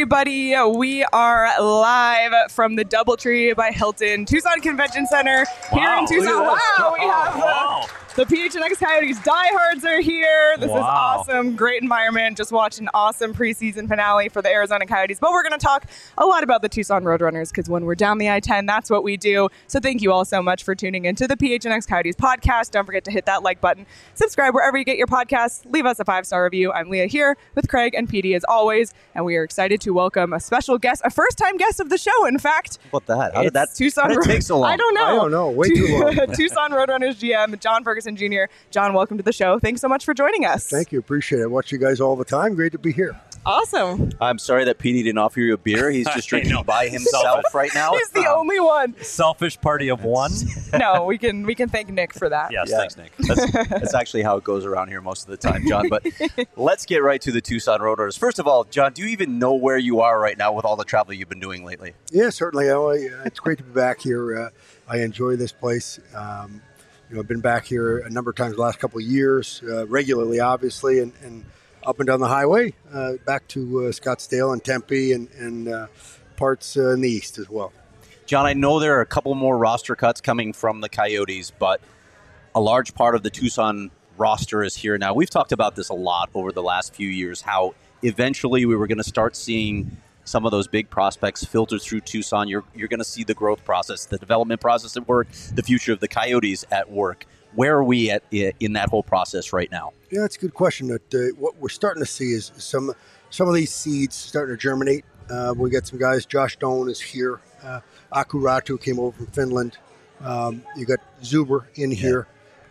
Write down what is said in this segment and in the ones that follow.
everybody. We are live from the Doubletree by Hilton Tucson Convention Center here in Tucson. Wow, we have the PHNX Coyotes diehards are here. This is awesome. Great environment. Just watched an awesome preseason finale for the Arizona Coyotes. But we're going to talk a lot about the Tucson Roadrunners because when we're down the I-10, that's what we do. So thank you all so much for tuning into the PHNX Coyotes podcast. Don't forget to hit that like button. Subscribe wherever you get your podcasts. Leave us a 5-star review. I'm Leah here with Craig and PD as always. And we are excited to welcome a special guest, a first-time guest of the show, in fact. What the heck? How did that take so long? I don't know. Way too long. Tucson Roadrunners GM, John Ferguson Jr. John, welcome to the show. Thanks so much for joining us. Thank you. Appreciate it. I watch you guys all the time. Great to be here. Awesome. I'm sorry that PD didn't offer you a beer. He's just drinking by himself right now. He's the only one. Selfish party of one. No, we can thank Nick for that. Yes, thanks, Nick. That's actually how it goes around here most of the time, John. But let's get right to the Tucson Roadrunners. First of all, John, do you even know where you are right now with all the travel you've been doing lately? Yeah, certainly. It's great to be back here. I enjoy this place. I've been back here a number of times the last couple of years, regularly, obviously, and up and down the highway, back to Scottsdale and Tempe and parts in the east as well. John, I know there are a couple more roster cuts coming from the Coyotes, but a large part of the Tucson roster is here now. We've talked about this a lot over the last few years, how eventually we were going to start seeing some of those big prospects filter through Tucson. You're going to see the growth process, the development process at work, the future of the Coyotes at work. Where are we at in that whole process right now? Yeah, that's a good question. What we're starting to see is some of these seeds starting to germinate. We got some guys. Josh Doan is here. Aku Ratu came over from Finland. You got Zuber in here.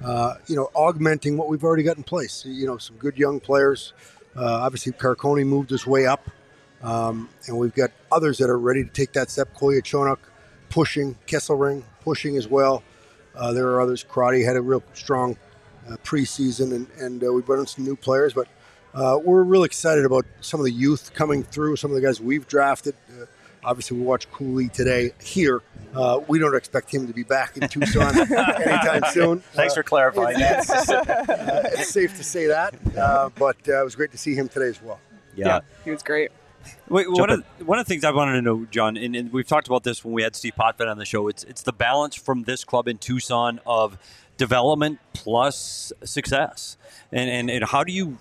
Augmenting what we've already got in place. Some good young players. Obviously, Carcone moved his way up. And we've got others that are ready to take that step. Kolya Chonuk pushing, Kesselring pushing as well. There are others. Karate had a real strong preseason, and we brought in some new players. But we're really excited about some of the youth coming through, some of the guys we've drafted. Obviously, we watched Cooley today here. We don't expect him to be back in Tucson anytime soon. Thanks for clarifying that. It's safe to say that, but it was great to see him today as well. Yeah, he was great. Wait, one of the things I wanted to know, John, and we've talked about this when we had Steve Potvin on the show, it's the balance from this club in Tucson of development plus success. And how do you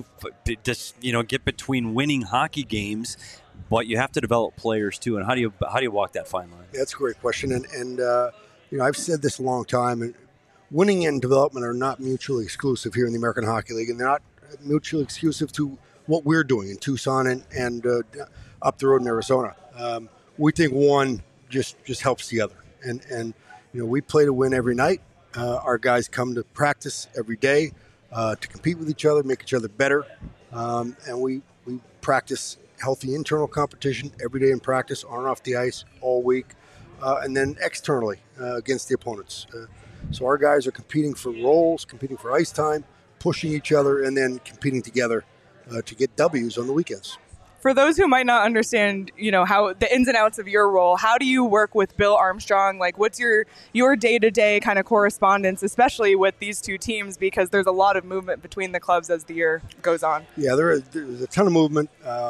just get between winning hockey games, but you have to develop players too, and how do you walk that fine line? That's a great question, and I've said this a long time, and winning and development are not mutually exclusive here in the American Hockey League, and they're not mutually exclusive to what we're doing in Tucson and up the road in Arizona. We think one just helps the other. And we play to win every night. Our guys come to practice every day to compete with each other, make each other better. And we practice healthy internal competition every day in practice, on and off the ice, all week. And then externally against the opponents. So our guys are competing for roles, competing for ice time, pushing each other, and then competing together to get W's on the weekends. For those who might not understand, how the ins and outs of your role, how do you work with Bill Armstrong? Like, what's your day-to-day kind of correspondence, especially with these two teams, because there's a lot of movement between the clubs as the year goes on? Yeah, there's a ton of movement.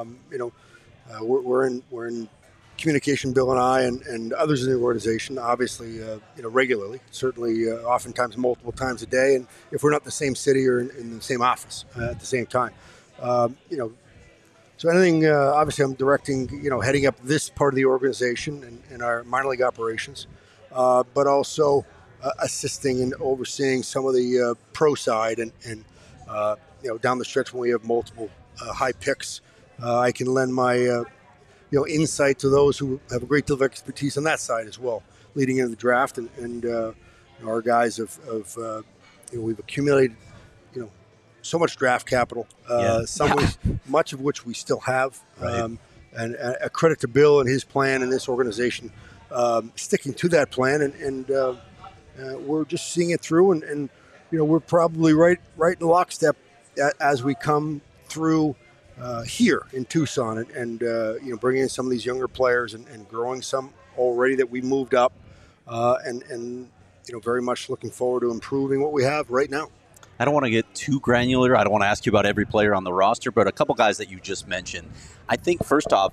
We're in communication, Bill and I, and others in the organization, obviously, regularly, certainly, oftentimes multiple times a day, and if we're not in the same city or in the same office at the same time. So anything, obviously I'm directing, heading up this part of the organization and our minor league operations, but also assisting and overseeing some of the pro side and down the stretch when we have multiple high picks, I can lend my, insight to those who have a great deal of expertise on that side as well, leading into the draft and our guys we've accumulated, so much draft capital, much of which we still have. Right. And a credit to Bill and his plan and this organization sticking to that plan. And we're just seeing it through. And we're probably right in lockstep as we come through here in Tucson and bringing in some of these younger players and growing some already that we moved up and very much looking forward to improving what we have right now. I don't want to get too granular. I don't want to ask you about every player on the roster, but a couple guys that you just mentioned. I think, first off,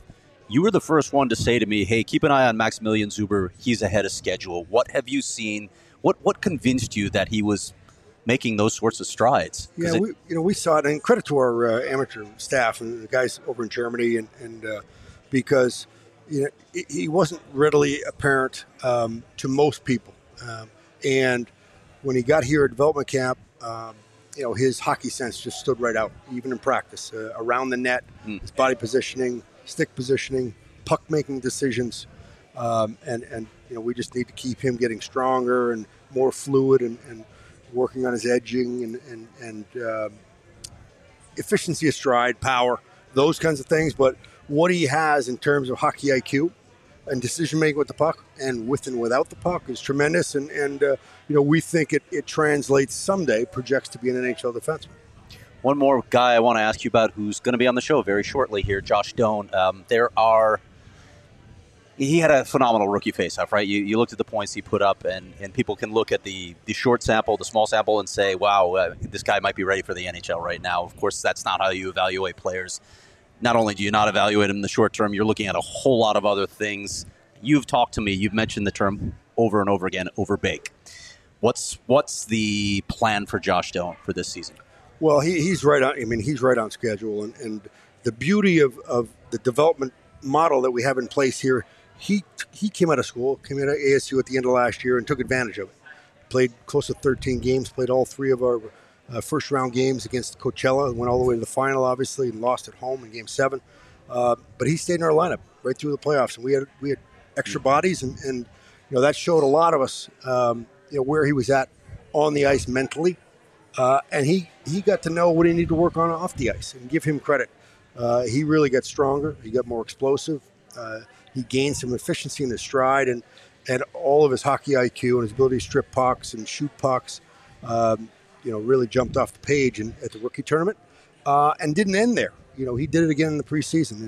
You were the first one to say to me, hey, keep an eye on Maximilian Zuber. He's ahead of schedule. What have you seen? What convinced you that he was making those sorts of strides? Yeah, we saw it, and credit to our amateur staff and the guys over in Germany, and because he wasn't readily apparent to most people. And when he got here at development camp, his hockey sense just stood right out, even in practice, around the net, his body positioning, stick positioning, puck-making decisions. And we just need to keep him getting stronger and more fluid and working on his edging and efficiency of stride, power, those kinds of things. But what he has in terms of hockey IQ and decision-making with the puck and with and without the puck is tremendous. And we think it translates someday, projects to be an NHL defenseman. One more guy I want to ask you about who's going to be on the show very shortly here, Josh Doan. He had a phenomenal rookie faceoff, right? You looked at the points he put up, and people can look at the short sample, the small sample, and say, wow, this guy might be ready for the NHL right now. Of course, that's not how you evaluate players. Not only do you not evaluate them in the short term, you're looking at a whole lot of other things. You've talked to me. You've mentioned the term over and over again, overbake. What's the plan for Josh Doan for this season? Well, he's right on. I mean, he's right on schedule, and the beauty of the development model that we have in place here. He came out of school, came out of ASU at the end of last year, and took advantage of it. Played close to 13 games, played all 3 of our first round games against Coachella, went all the way to the final, obviously, and lost at home in Game 7. But he stayed in our lineup right through the playoffs, and we had extra bodies, and that showed a lot of us where he was at on the ice mentally. And he got to know what he needed to work on off the ice, and give him credit. He really got stronger. He got more explosive. He gained some efficiency in his stride, and all of his hockey IQ and his ability to strip pucks and shoot pucks, really jumped off the page at the rookie tournament, and didn't end there. He did it again in the preseason,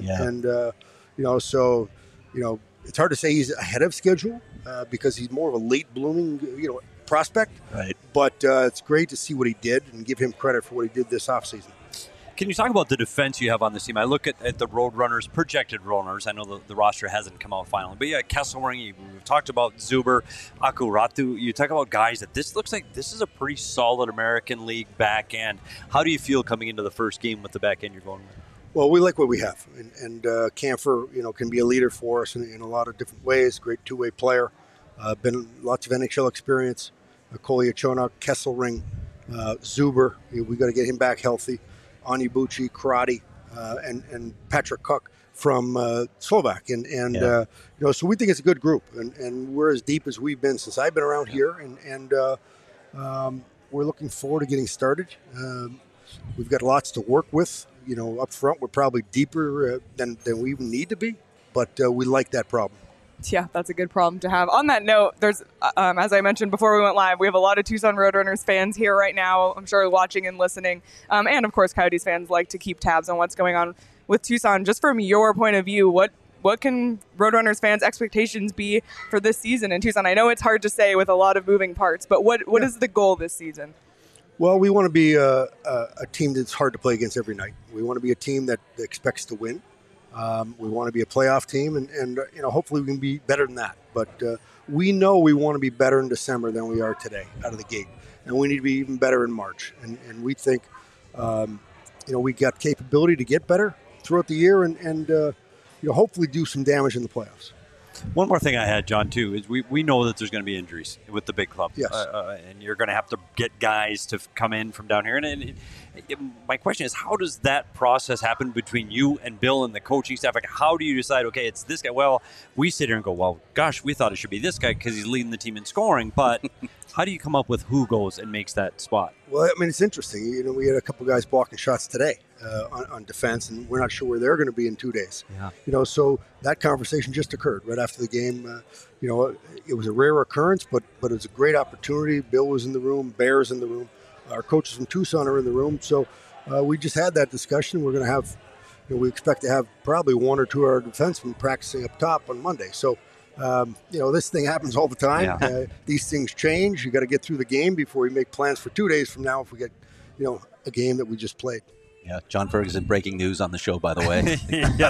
so it's hard to say he's ahead of schedule because he's more of a late blooming, prospect. Right. But it's great to see what he did and give him credit for what he did this offseason. Can you talk about the defense you have on this team? I look at the Roadrunners, projected Roadrunners. I know the roster hasn't come out finally. But Kesselring, we've talked about Zuber, Akuratu. You talk about guys that this looks like this is a pretty solid American League back end. How do you feel coming into the first game with the back end you're going with? Well, we like what we have. And Kampfer, can be a leader for us in a lot of different ways. Great two-way player. Been lots of NHL experience. Kolya Chonok, Kesselring, Zuber. We got to get him back healthy. Onyebuchi, Karate, and Patrick Cook from Slovak. So we think it's a good group. And we're as deep as we've been since I've been around here. And we're looking forward to getting started. We've got lots to work with. Up front, we're probably deeper than we even need to be. But we like that problem. Yeah, that's a good problem to have. On that note, there's, as I mentioned before we went live, we have a lot of Tucson Roadrunners fans here right now, I'm sure watching and listening. And, of course, Coyotes fans like to keep tabs on what's going on with Tucson. Just from your point of view, what can Roadrunners fans' expectations be for this season in Tucson? I know it's hard to say with a lot of moving parts, but what is the goal this season? Well, we want to be a team that's hard to play against every night. We want to be a team that expects to win. We want to be a playoff team, and hopefully we can be better than that. But we know we want to be better in December than we are today out of the gate, and we need to be even better in March. And we think, we got capability to get better throughout the year, and hopefully do some damage in the playoffs. One more thing I had, John, too, is we know that there's going to be injuries with the big club. Yes. And you're going to have to get guys to come in from down here. And my question is, how does that process happen between you and Bill and the coaching staff? Like, how do you decide, okay, it's this guy? Well, we sit here and go, well, gosh, we thought it should be this guy because he's leading the team in scoring. But how do you come up with who goes and makes that spot? Well, it's interesting. We had a couple guys blocking shots today on defense, and we're not sure where they're going to be in 2 days. Yeah. So that conversation just occurred right after the game. It was a rare occurrence, but it was a great opportunity. Bill was in the room, Bear's in the room. Our coaches from Tucson are in the room. So we just had that discussion. We're going to have, we expect to have probably 1 or 2 of our defensemen practicing up top on Monday. So, this thing happens all the time. Yeah. These things change. You got to get through the game before we make plans for 2 days from now if we get, a game that we just played. Yeah, John Ferguson breaking news on the show, by the way. Yeah,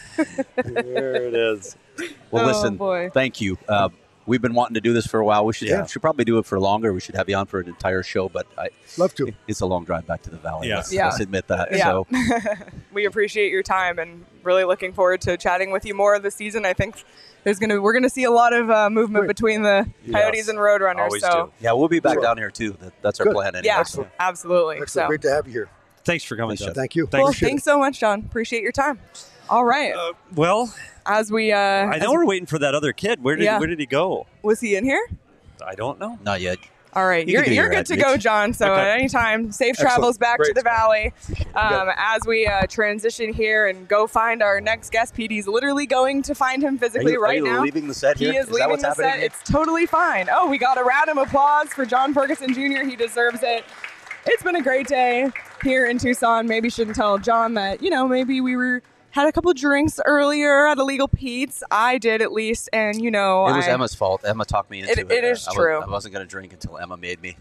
there it is. Well, listen, boy. thank you. We've been wanting to do this for a while. We should probably do it for longer. We should have you on for an entire show, but Love to. it's a long drive back to the Valley. Yeah. Let's admit that. Yeah. So We appreciate your time and really looking forward to chatting with you more this season. I think we're gonna see a lot of movement between the Coyotes and Roadrunners. Always so do. yeah, we'll be back Sure. down here too. That's our Good. plan. Anyway. yeah, Excellent. absolutely. Excellent. So Great to have you here. Thanks for coming, John. Thank you. well, Appreciate thanks it. so much, John. Appreciate your time. All right. Well, As we I know we're waiting for that other kid. Where did he go? was he in here? I don't know. Not yet. All right, You can do you're your good ad to go, reach. John. So Okay. at any time, safe travels back to Great. the Valley. got it. As we transition here and go find our next guest, Petey's literally going to find him physically Are you now. leaving the set here? He is that leaving what's the happening set. here? It's totally fine. Oh, we got a round of applause for John Ferguson Jr. He deserves it. It's been a great day here in Tucson. Maybe shouldn't tell John that, maybe we had a couple drinks earlier at Illegal Pete's. I did at least, and It was Emma's fault. Emma talked me into it. It is true. I wasn't going to drink until Emma made me.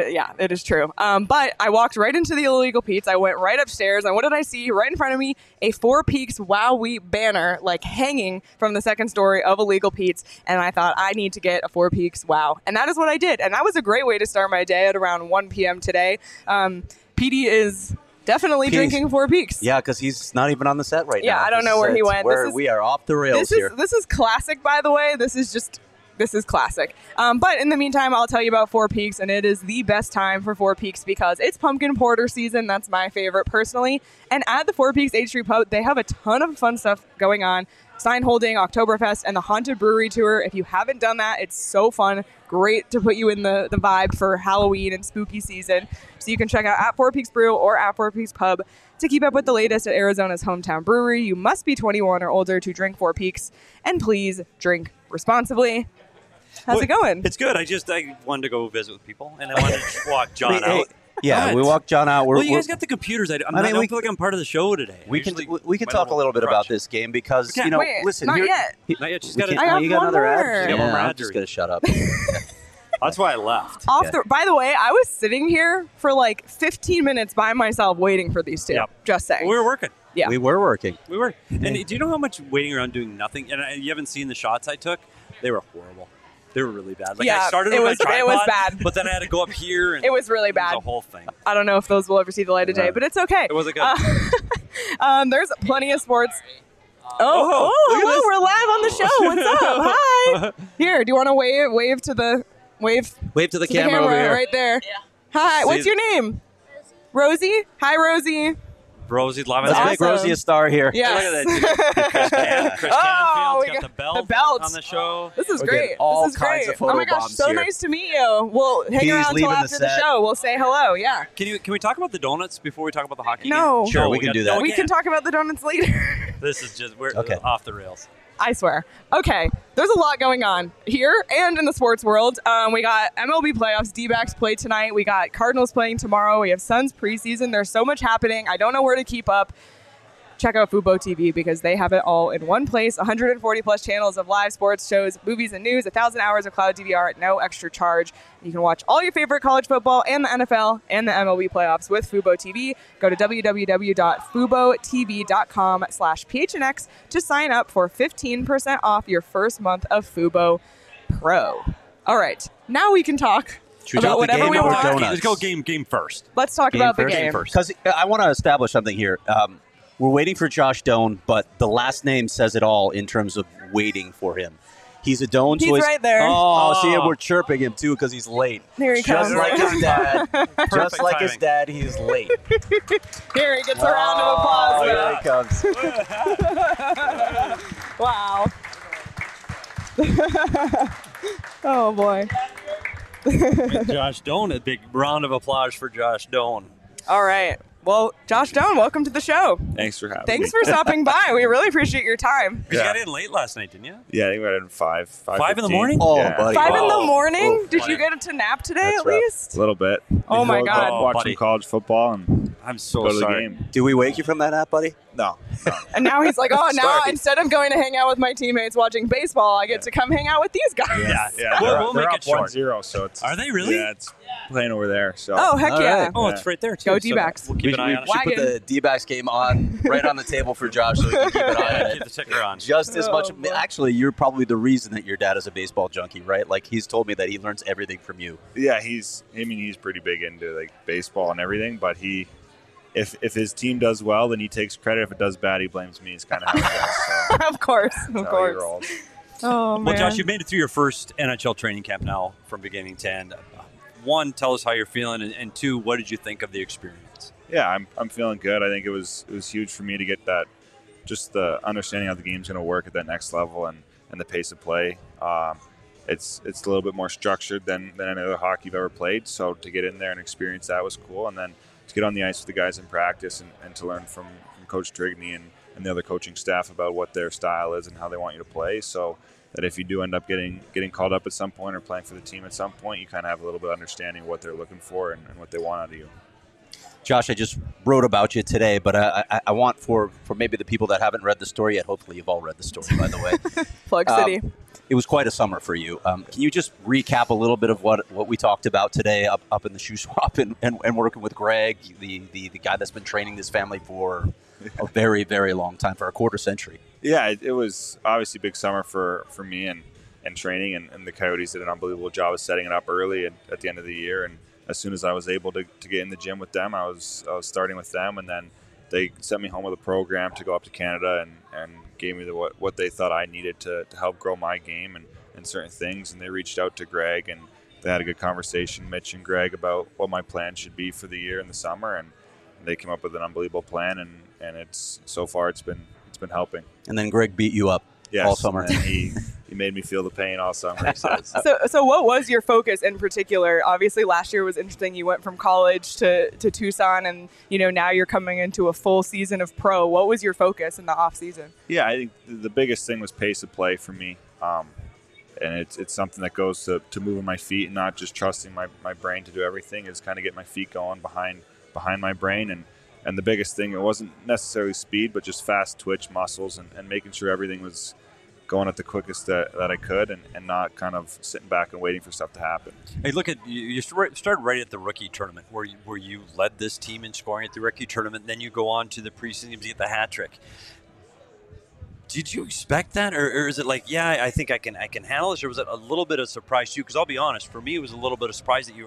It is true. But I walked right into the Illegal Pete's. I went right upstairs, and what did I see? Right in front of me, a Four Peaks Wow Wheat banner, hanging from the second story of Illegal Pete's. And I thought, I need to get a Four Peaks Wow. And that is what I did. And that was a great way to start my day at around 1 p.m. today. Petey is definitely drinking Four Peaks. Yeah, because he's not even on the set right now. Yeah, I don't know where he went. We are off the rails here. This is classic, by the way. This is classic. But in the meantime, I'll tell you about Four Peaks, and it is the best time for Four Peaks because it's pumpkin porter season. That's my favorite personally. And at the Four Peaks H Street Pub, they have a ton of fun stuff going on. Sign holding, Oktoberfest, and the Haunted Brewery Tour. If you haven't done that, it's so fun. Great to put you in the vibe for Halloween and spooky season. So you can check out at Four Peaks Brew or at Four Peaks Pub to keep up with the latest at Arizona's hometown brewery. You must be 21 or older to drink Four Peaks, and please drink responsibly. How's it going? It's good. I wanted to go visit with people, and I wanted to just walk John out. Yeah, What? we walked John out. Well, you guys got the computers. I don't feel like I'm part of the show today. We can talk a little bit about this game because Okay. Wait, listen. not here- yet. Not yet. She's We got can't- I have you got one another more. ad? Yeah, one more I'm ad just to gonna shut up. That's why I left. By the way, I was sitting here for 15 minutes by myself waiting for these two. Yep. Just saying. We were working. Yeah. We were working. We were. And do you know how much waiting around doing nothing? And you haven't seen the shots I took? They were horrible. They were really bad. Yeah, I started it with was- my it was tripod, bad. but then I had to go up here. And It was really It bad. was a whole thing. I don't know if those will ever see the light of day, but it's okay. It wasn't good. There's plenty of sports. look at Hello, this. we're live on the show. What's up? Hi. Here, do you want to wave to the camera over here. right there? Yeah. Hi. What's your name? Rosie. Hi, Rosie. Rosie's live on Let's the make Awesome. Rosie a star here. Yeah. Look at that. Chris Oh, Canfield's we got got the belt, the belt. on the show. This is We're great. getting all This is kinds great. of photo Oh my gosh, bombs so here. nice to meet you. We'll hang He's around until leaving the after the set. show. We'll say hello. Yeah. Can we talk about the donuts before we talk about the hockey No. game? Sure, we can do that. No, We can talk about the donuts later. This is just, we're Okay. off the rails. I swear. Okay, there's a lot going on here and in the sports world. We got MLB playoffs. D-backs play tonight. We got Cardinals playing tomorrow. We have Suns preseason. There's so much happening. I don't know where to keep up. Check out Fubo TV because they have it all in one place. 140 plus channels of live sports shows, movies, and news. 1,000 hours of cloud DVR at no extra charge. You can watch all your favorite college football and the NFL and the MLB playoffs with Fubo TV. Go to www.fubotv.com/phnx to sign up for 15% off your first month of Fubo Pro. All right, now we can talk Should we about talk the whatever game we or the want. donuts? Let's go game first. Let's talk about the first? game. Because I want to establish something here. We're waiting for Josh Doan, but the last name says it all in terms of waiting for him. He's a Doan. He's so right there. Oh, see, we're chirping him too because he's late. Here he Just comes. like his dad. Just like his timing. dad, he's late. Here he gets a round of applause. Oh, here he comes. Wow. Oh boy. Josh Doan, a big round of applause for Josh Doan. All right. Well, Josh Doan, welcome to the show. Thanks for having me. Thanks for stopping by. We really appreciate your time. You Yeah. got in late last night, didn't you? Yeah, I think we got in 5 5 in the 15. morning? Oh, Yeah. buddy. 5 in the Oh. morning? Oh, Did buddy. you get to nap today That's at rough. least? A little bit. Oh, my Go God. Watch buddy. some college football and I'm so go to the sorry. game. Do we wake you from that nap, buddy? No. And now he's like, oh, now Sorry. instead of going to hang out with my teammates watching baseball, I get to come hang out with these guys. Yeah, We'll they're make up it short. 1-0, so it's. Are they really? Yeah, it's playing over there. So. Oh, heck All yeah. right. Oh, it's right there too. Go So D-backs. We'll keep an eye on it. should put Wagon. the D-backs game on right on the table for Josh so we can keep an eye on Keep it. the ticker on. Just as much. Oh, boy. Actually, you're probably the reason that your dad is a baseball junkie, right? Like he's told me that he learns everything from you. Yeah, he's pretty big into like baseball and everything, but if his team does well, then he takes credit. If it does bad, he blames me. It's kind of how it goes. So Of course. Of that's how he course. rolls. Oh, man. Well, Josh, you've made it through your first NHL training camp now from beginning to end. One, tell us how you're feeling, and two, what did you think of the experience? Yeah, I'm feeling good. I think it was huge for me to get that, just the understanding how the game's going to work at that next level and the pace of play. It's a little bit more structured than any other hockey you've ever played. So to get in there and experience that was cool. And then to get on the ice with the guys in practice and to learn from Coach Trigney and the other coaching staff about what their style is and how they want you to play. So that if you do end up getting called up at some point or playing for the team at some point, you kind of have a little bit of understanding of what they're looking for and what they want out of you. Josh, I just wrote about you today, but I want for maybe the people that haven't read the story yet, hopefully you've all read the story, by the way. Plug City. It was quite a summer for you. Can you just recap a little bit of what we talked about today up in the shoe swap and working with Greg, the guy that's been training this family for a very, very long time, for a quarter century? Yeah, it was obviously a big summer for me and training, and the Coyotes did an unbelievable job of setting it up early and at the end of the year. And as soon as I was able to get in the gym with them, I was starting with them, and then they sent me home with a program to go up to Canada and gave me what they thought I needed to help grow my game and certain things. And they reached out to Greg, and they had a good conversation, Mitch and Greg, about what my plan should be for the year in the summer, and they came up with an unbelievable plan, and it's so far it's been helping. And then Greg beat you up all summer. And he made me feel the pain all summer, he says. So what was your focus in particular? Obviously, last year was interesting. You went from college to Tucson, and now you're coming into a full season of pro. What was your focus in the off season? Yeah, I think the biggest thing was pace of play for me, and it's something that goes to moving my feet and not just trusting my brain to do everything. Is kind of get my feet going behind my brain, and the biggest thing, it wasn't necessarily speed, but just fast twitch muscles and making sure everything was going at the quickest that I could and not kind of sitting back and waiting for stuff to happen. Hey, look at you started right at the rookie tournament where you led this team in scoring at the rookie tournament. Then you go on to the preseason to get the hat trick. Did you expect that, or is it like, yeah, I think I can handle this, or was it a little bit of surprise to you? Because I'll be honest, for me, it was a little bit of surprise that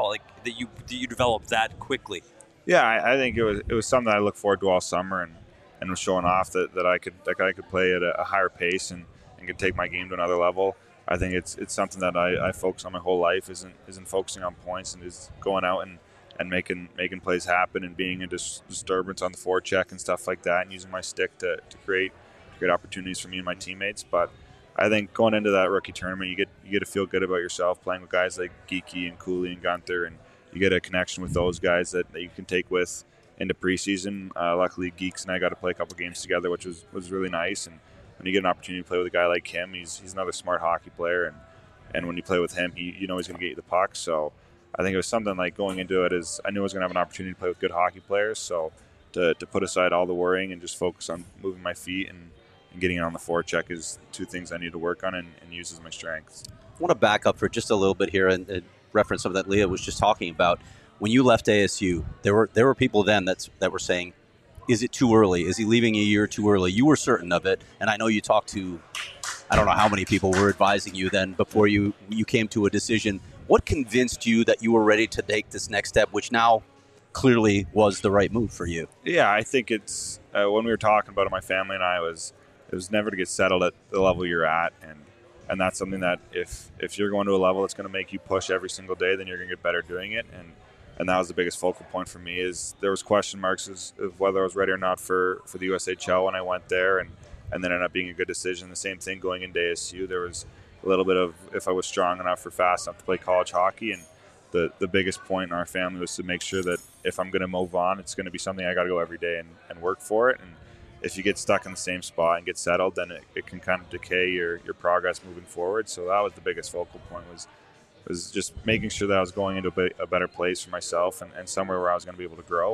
you developed that quickly. Yeah, I think it was something that I looked forward to all summer and was showing off that I could play at a higher pace and could take my game to another level. I think it's something that I focus on my whole life, isn't focusing on points and is going out and making plays happen and being a disturbance on the forecheck and stuff like that, and using my stick to create opportunities for me and my teammates. But I think going into that rookie tournament, you get to feel good about yourself playing with guys like Geeky and Cooley and Gunther, and you get a connection with those guys that you can take with into preseason. Luckily, Geeks and I got to play a couple games together, which was really nice. And when you get an opportunity to play with a guy like him, he's another smart hockey player, and when you play with him, he's going to get you the puck. So I think it was something like going into it is I knew I was going to have an opportunity to play with good hockey players. So to put aside all the worrying and just focus on moving my feet and getting it on the forecheck is two things I need to work on and use as my strengths. I want to back up for just a little bit here and reference something that Leah was just talking about. When you left ASU, there were people then that were saying, is it too early? Is he leaving a year too early? You were certain of it, and I know you talked to, I don't know how many people were advising you then before you came to a decision. What convinced you that you were ready to take this next step, which now clearly was the right move for you? Yeah, I think it's when we were talking about it, my family and I, it was never to get settled at the level you're at, and that's something that if you're going to a level that's going to make you push every single day, then you're going to get better doing it. And that was the biggest focal point for me, is there was question marks of whether I was ready or not for the USHL when I went there, and then ended up being a good decision. The same thing going into ASU, there was a little bit of if I was strong enough or fast enough to play college hockey, and the biggest point in our family was to make sure that if I'm going to move on, it's going to be something I got to go every day and work for it. And if you get stuck in the same spot and get settled, then it can kind of decay your progress moving forward. So that was the biggest focal point, was just making sure that I was going into a better place for myself and somewhere where I was going to be able to grow. And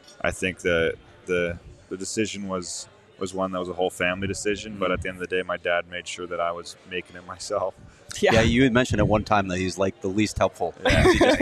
I think the decision was one that was a whole family decision. But at the end of the day, my dad made sure that I was making it myself. Yeah, you had mentioned at one time that he's like the least helpful. Yeah,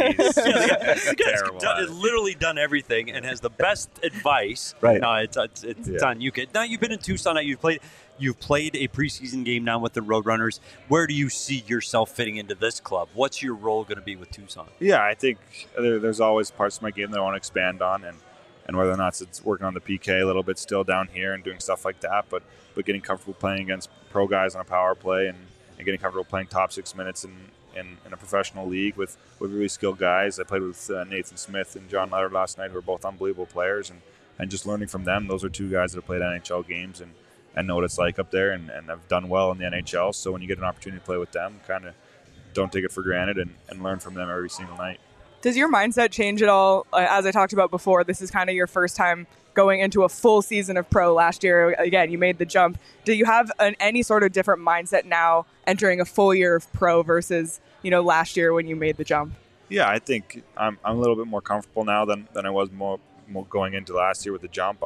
The guy's terrible. literally done everything and has the best advice. Right. No, it's on you, kid. Now you've been in Tucson. You've played a preseason game now with the Roadrunners. Where do you see yourself fitting into this club? What's your role going to be with Tucson? Yeah, I think there's always parts of my game that I want to expand on, and whether or not it's working on the PK a little bit still down here and doing stuff like that, but getting comfortable playing against pro guys on a power play and getting comfortable playing top 6 minutes in a professional league with really skilled guys. I played with Nathan Smith and John Leonard last night, who are both unbelievable players, and just learning from them. Those are two guys that have played NHL games and know what it's like up there and have done well in the NHL. So when you get an opportunity to play with them, kind of don't take it for granted and learn from them every single night. Does your mindset change at all? As I talked about before, this is kind of your first time going into a full season of pro. Last year, again, you made the jump. Do you have any sort of different mindset now entering a full year of pro versus, last year when you made the jump? Yeah, I think I'm a little bit more comfortable now than I was more going into last year with the jump.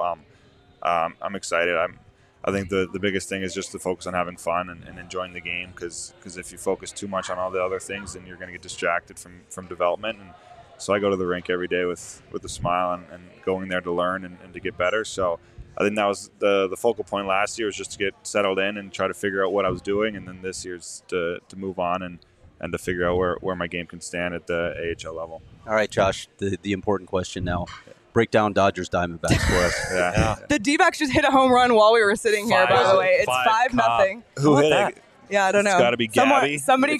I'm excited. I think the biggest thing is just to focus on having fun and enjoying the game, because if you focus too much on all the other things, then you're going to get distracted from development. And so I go to the rink every day with a smile and going there to learn and to get better. So I think that was the focal point last year, was just to get settled in and try to figure out what I was doing. And then this year's to move on and to figure out where my game can stand at the AHL level. All right, Josh, the important question now. Break down Dodgers Diamondbacks for us. Yeah. The D-backs just hit a home run while we were sitting here, by the way. It's 5-0. Who hit it? Yeah, I don't know. It's got to be Gabby. Somebody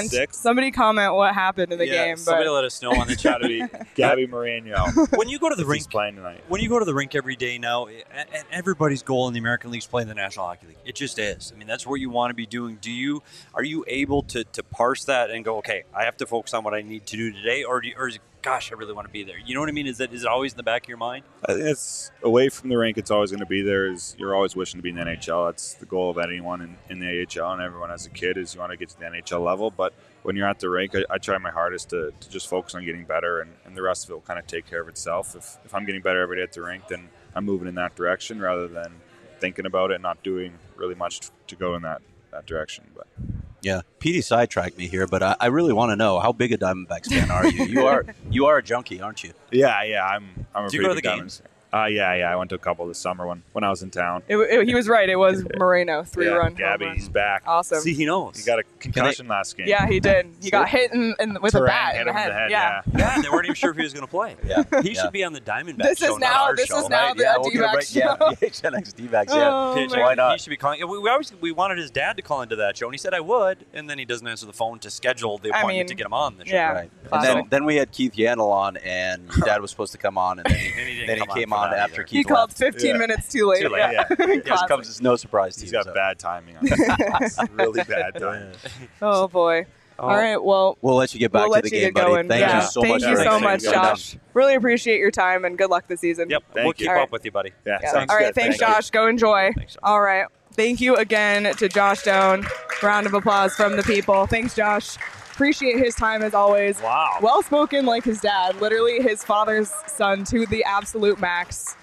comment what happened in the game. Somebody But let us know on the It's got chat. to be Gabby Moreno. When you go to the He's rink, playing tonight. when you go to the rink every day now, and everybody's goal in the American League is playing the National Hockey League. It just is. I mean, that's what you want to be doing. Are you able to parse that and go, okay, I have to focus on what I need to do today, or is it, gosh, I really want to be there? You know what I mean? Is it always in the back of your mind? I think it's away from the rink. It's always going to be there. You're always wishing to be in the NHL. That's the goal of anyone in the AHL, and everyone as a kid is you want to get to the NHL level. But when you're at the rink, I try my hardest to just focus on getting better, and the rest of it will kind of take care of itself. If I'm getting better every day at the rink, then I'm moving in that direction rather than thinking about it and not doing really much to go in that direction. But Yeah, Petey sidetracked me here, but I really want to know, how big a Diamondbacks fan are you? You are a junkie, aren't you? yeah, I'm a Do you pretty go to big the Diamondbacks games? fan. Yeah. I went to a couple this summer when I was in town. he was right. It was Moreno, 3-run. Gabby, home he's run. back. Awesome. See, he knows. He got a concussion last game. Yeah, he did. He got hit with a Terang bat hit in the him in head. the head, Yeah. Yeah, they weren't even sure if he was going to play. Yeah. He should be on the Diamondbacks This show, is not now. our This show. is now the we'll get it D-backs right. show. Yeah, PHNX D-backs, Oh, yeah. man. Why not? He should be calling. We wanted his dad to call into that show, and he said I would, and then he doesn't answer the phone to schedule the appointment to get him on the show. Yeah. Right. And Classic. then we had Keith Yandel on, and your dad was supposed to come on, and he then he didn't came come on on for that after either. Keith He called left. 15 minutes too late. Too late, yeah. Just Classic. comes as no surprise to He's you. got so. bad timing on this. Really bad timing. Oh boy. All right. Well, We'll let you get back we'll to let the you game, get buddy. going. Thank Yeah. you so Thank much. you for so everything much, you've done. Josh. Really appreciate your time and good luck this season. Yep, Thank we'll keep you. up with you, buddy. Yeah, Yeah. sounds All right. good. Thanks, Thank you. Josh. Go enjoy. Thanks, Josh. All right. Thank you again to Josh Doan. Round of applause from the people. Thanks, Josh. Appreciate his time as always. Wow. Well spoken like his dad. Literally his father's son to the absolute max.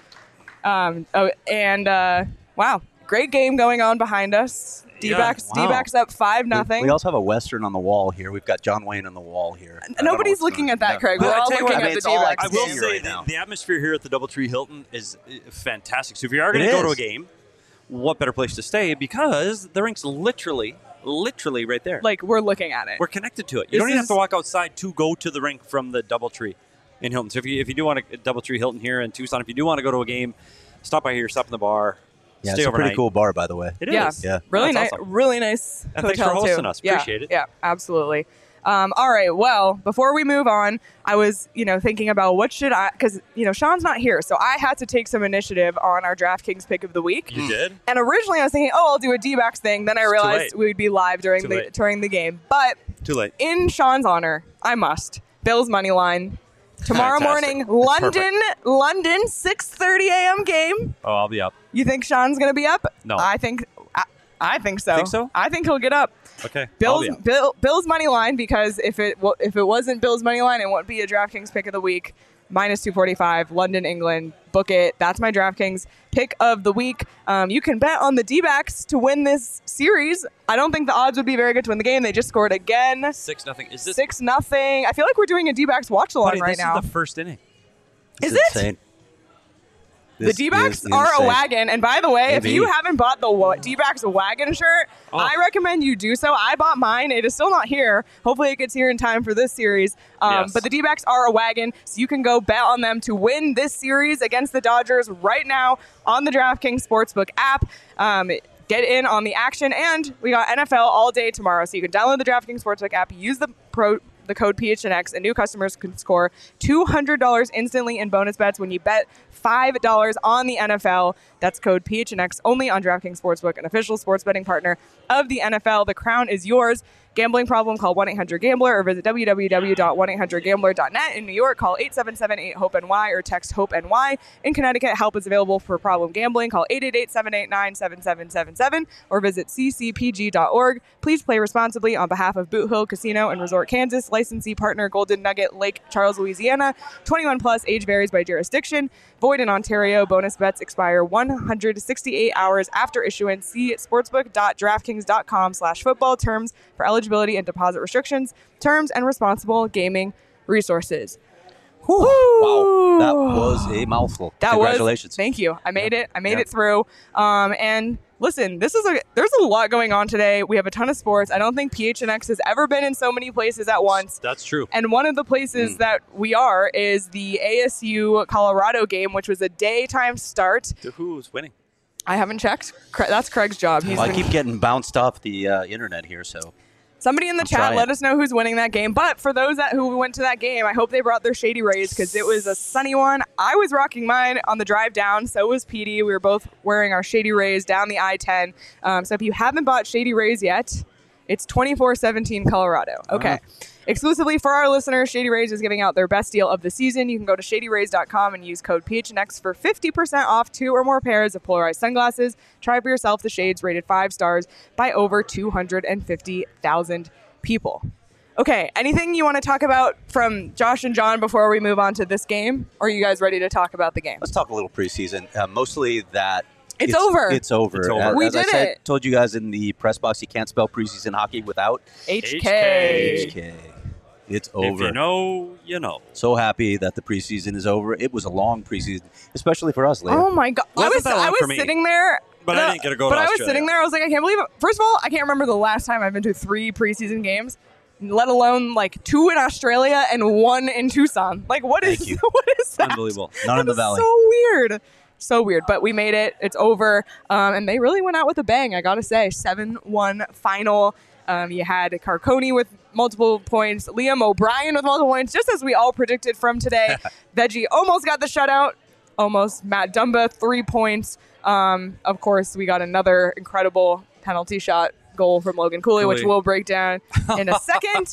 Wow. Great game going on behind us. D-backs, wow. D-backs up 5-0. We also have a Western on the wall here. We've got John Wayne on the wall here. I don't know Nobody's what's looking going at that, on. Craig. No. We're I all tell you looking what, at mean, the it's all I D-backs. I can will see game. say right now. the atmosphere here at the DoubleTree Hilton is fantastic. So if you are going It to go to is. a game, what better place to stay? Because the rink's literally right there. Like, we're looking at it. We're connected to it. You This don't even have is- to walk outside to go to the rink from the DoubleTree in Hilton. So if you do want to DoubleTree Hilton here in Tucson, if you do want to go to a game, stop by here, stop in the bar, Yeah, stay it's a overnight. pretty cool bar, by the way. It Yeah. is. Yeah. Really That's nice, awesome. really nice And thanks for hotel, hosting too. us. Yeah, Appreciate it. Yeah, absolutely. All right. Well, before we move on, I was, thinking about what should I, because, Sean's not here, so I had to take some initiative on our DraftKings pick of the week. You did? And originally I was thinking, I'll do a D-backs thing. Then I It's too realized late. we'd be live during Too the late. during the game. But Too late. in Sean's honor, I must. Bills money line. Tomorrow Fantastic. morning, London, 6:30 a.m. game. Oh, I'll be up. You think Sean's going to be up? No. I think so. Think so? I think he'll get up. Okay. I'll Bills, be up. Bill's money line, because if it wasn't Bill's money line, it wouldn't be a DraftKings pick of the week. minus 245, London, England. Book it. That's my DraftKings pick of the week. You can bet on the D-backs to win this series. I don't think the odds would be very good to win the game. They just scored again. 6-0. Is this 6-0. I feel like we're doing a D-backs watch along right now. This is the first inning. Is it? Insane. The D-backs are a wagon. And by the way, if you haven't bought the D-backs wagon shirt, I recommend you do so. I bought mine. It is still not here. Hopefully it gets here in time for this series. But the D-backs are a wagon, so you can go bet on them to win this series against the Dodgers right now on the DraftKings Sportsbook app. Get in on the action. And we got NFL all day tomorrow, so you can download the DraftKings Sportsbook app, use the code PHNX, and new customers can score $200 instantly in bonus bets when you bet $5 on the NFL. That's code PHNX only on DraftKings Sportsbook, an official sports betting partner of the NFL. The crown is yours. Gambling problem? Call 1-800-GAMBLER or visit www.1800gambler.net. In New York, call 877-8-HOPE-NY or text HOPE-NY. In Connecticut, help is available for problem gambling. Call 888-789-7777 or visit ccpg.org. Please play responsibly on behalf of Boot Hill Casino and Resort Kansas. Licensee partner Golden Nugget Lake Charles, Louisiana. 21 plus. Age varies by jurisdiction. Void in Ontario. Bonus bets expire 168 hours after issuance. See sportsbook.draftkings.com/football. Terms for eligibility and deposit restrictions, terms, and responsible gaming resources. Wow, that was a mouthful. Congratulations. Thank you. I made it. I made it through. And listen, there's a lot going on today. We have a ton of sports. I don't think PHNX has ever been in so many places at once. That's true. And one of the places that we are is the ASU Colorado game, which was a daytime start. Who's winning? I haven't checked. That's Craig's job. I keep getting bounced off the internet here, so... Somebody in the chat, let us know who's winning that game. But for those who went to that game, I hope they brought their Shady Rays because it was a sunny one. I was rocking mine on the drive down. So was Petey. We were both wearing our Shady Rays down the I-10. So if you haven't bought Shady Rays yet, it's 2417 Colorado. Okay. Exclusively for our listeners, Shady Rays is giving out their best deal of the season. You can go to shadyrays.com and use code PHNX for 50% off 2 or more pairs of polarized sunglasses. Try for yourself the shades rated 5 stars by over 250,000 people. Okay, anything you want to talk about from Josh and John before we move on to this game? Or are you guys ready to talk about the game? Let's talk a little preseason. Mostly that... It's over. It's over. We As did I said, it. Told you guys in the press box, you can't spell preseason hockey without HK. It's over. If you know, you know. So happy that the preseason is over. It was a long preseason, especially for us, Leah. Oh my God. I was sitting there. But I didn't get to go to But I was Australia. sitting there. I was like, I can't believe it. First of all, I can't remember the last time I've been to 3 preseason games, let alone like 2 in Australia and 1 in Tucson. Like, what is that? Unbelievable. Not in the Valley. So weird. So weird. But we made it. It's over. And they really went out with a bang, I got to say. 7-1 final. You had Carconi with multiple points, Liam O'Brien with multiple points, just as we all predicted from today. Veggie almost got the shutout. Almost. Matt Dumba, 3 points. Of course, we got another incredible penalty shot goal from Logan Cooley, which we'll break down in a second.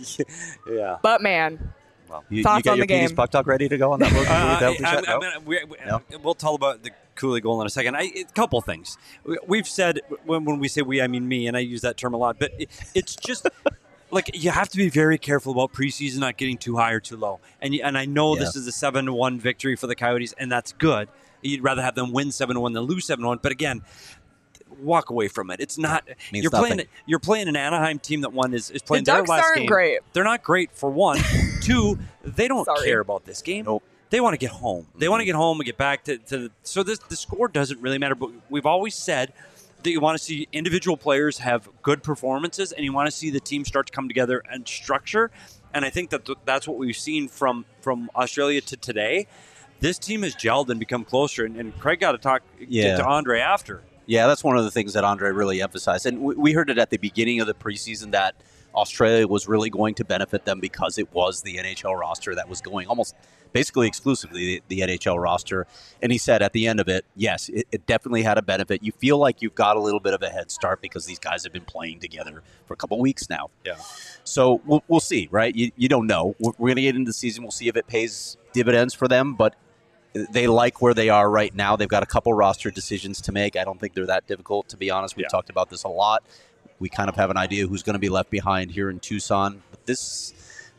Yeah. But, man, You thoughts got on your the game? Petey's puck talk ready to go on that penalty shot? No? We'll tell about the Cooley goal in a second. A couple things. We've said, when we say we, I mean me, and I use that term a lot, but it's just... Like, you have to be very careful about preseason not getting too high or too low. And I know this is a 7-1 victory for the Coyotes, and that's good. You'd rather have them win 7-1 than lose 7-1. But again, walk away from it. It's not. You're playing an Anaheim team that is playing their last game. The Ducks aren't great. They're not great for one. 2, they don't care about this game. Nope. They want to get home. They want to get home and get back to the. So the score doesn't really matter. But we've always said that you want to see individual players have good performances, and you want to see the team start to come together and structure. And I think that's what we've seen from Australia to today. This team has gelled and become closer. And Craig got to get to Andre after. Yeah, that's one of the things that Andre really emphasized. And we heard it at the beginning of the preseason that Australia was really going to benefit them because it was the NHL roster that was going almost basically exclusively the NHL roster. And he said at the end of it, yes, it definitely had a benefit. You feel like you've got a little bit of a head start because these guys have been playing together for a couple weeks now. Yeah. So we'll see, right? You don't know. We're going to get into the season. We'll see if it pays dividends for them, but they like where they are right now. They've got a couple roster decisions to make. I don't think they're that difficult, to be honest. We've talked about this a lot. We kind of have an idea who's going to be left behind here in Tucson. But this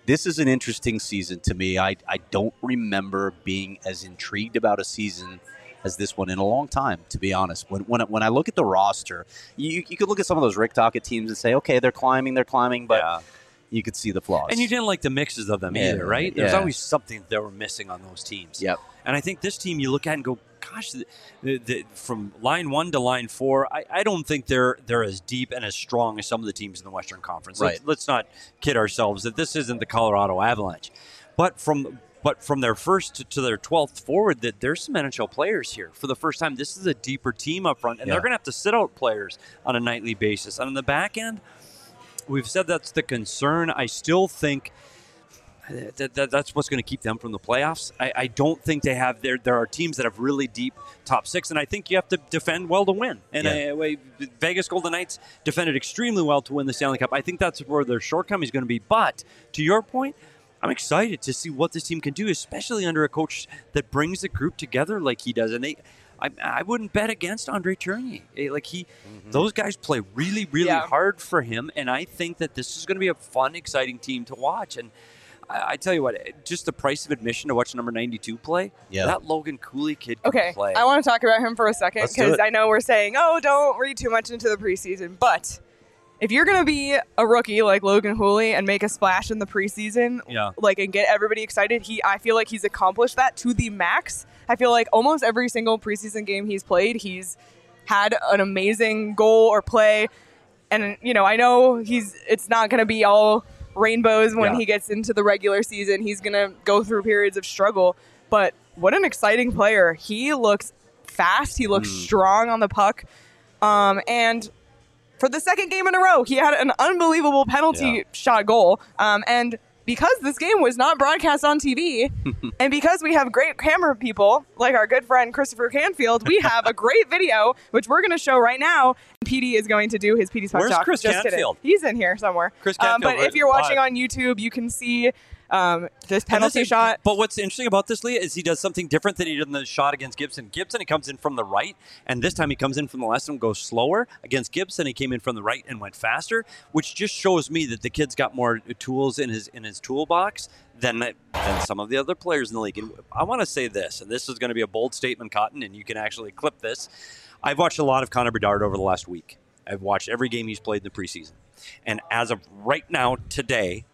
This is an interesting season to me. I don't remember being as intrigued about a season as this one in a long time, to be honest. When I look at the roster, you could look at some of those Rick Tocchet teams and say, okay, they're climbing, but you could see the flaws. And you didn't like the mixes of them either, right? There's always something they were missing on those teams. Yep. And I think this team you look at and go, gosh, from line 1 to line 4, I don't think they're as deep and as strong as some of the teams in the Western Conference. Right. Let's not kid ourselves that this isn't the Colorado Avalanche. But from their first to their 12th forward, that there's some NHL players here. For the first time, this is a deeper team up front, and they're going to have to sit out players on a nightly basis. And on the back end, we've said that's the concern. I still think that's what's going to keep them from the playoffs. I don't think they have there are teams that have really deep top 6, and I think you have to defend well to win. And Vegas Golden Knights defended extremely well to win the Stanley Cup. I think that's where their shortcoming is going to be. But to your point, I'm excited to see what this team can do, especially under a coach that brings the group together like he does. And I wouldn't bet against Andre Tournier. Those guys play really, really hard for him, and I think that this is going to be a fun, exciting team to watch. And I tell you what, just the price of admission to watch number 92 play, that Logan Cooley kid can play. I want to talk about him for a second because I know we're saying, don't read too much into the preseason, but if you're going to be a rookie like Logan Cooley and make a splash in the preseason, and get everybody excited, I feel like he's accomplished that to the max. I feel like almost every single preseason game he's played, he's had an amazing goal or play. And, I know it's not going to be all rainbows when he gets into the regular season. He's going to go through periods of struggle. But what an exciting player. He looks fast. He looks strong on the puck. And for the second game in a row, he had an unbelievable penalty shot goal. And because this game was not broadcast on TV, and because we have great camera people like our good friend Christopher Canfield, we have a great video, which we're going to show right now. PD is going to do his PD's Puck Talk. Where's Chris Canfield? Kidding. He's in here somewhere. Chris Canfield, but if you're watching on YouTube, you can see this penalty shot. But what's interesting about this, Leah, is he does something different than he did in the shot against Gibson. Gibson, he comes in from the right, and this time he comes in from the left and goes slower. Against Gibson, he came in from the right and went faster, which just shows me that the kid's got more tools in his toolbox than some of the other players in the league. And I want to say this, and this is going to be a bold statement, Cotton, and you can actually clip this. I've watched a lot of Connor Bedard over the last week. I've watched every game he's played in the preseason. And as of right now, today,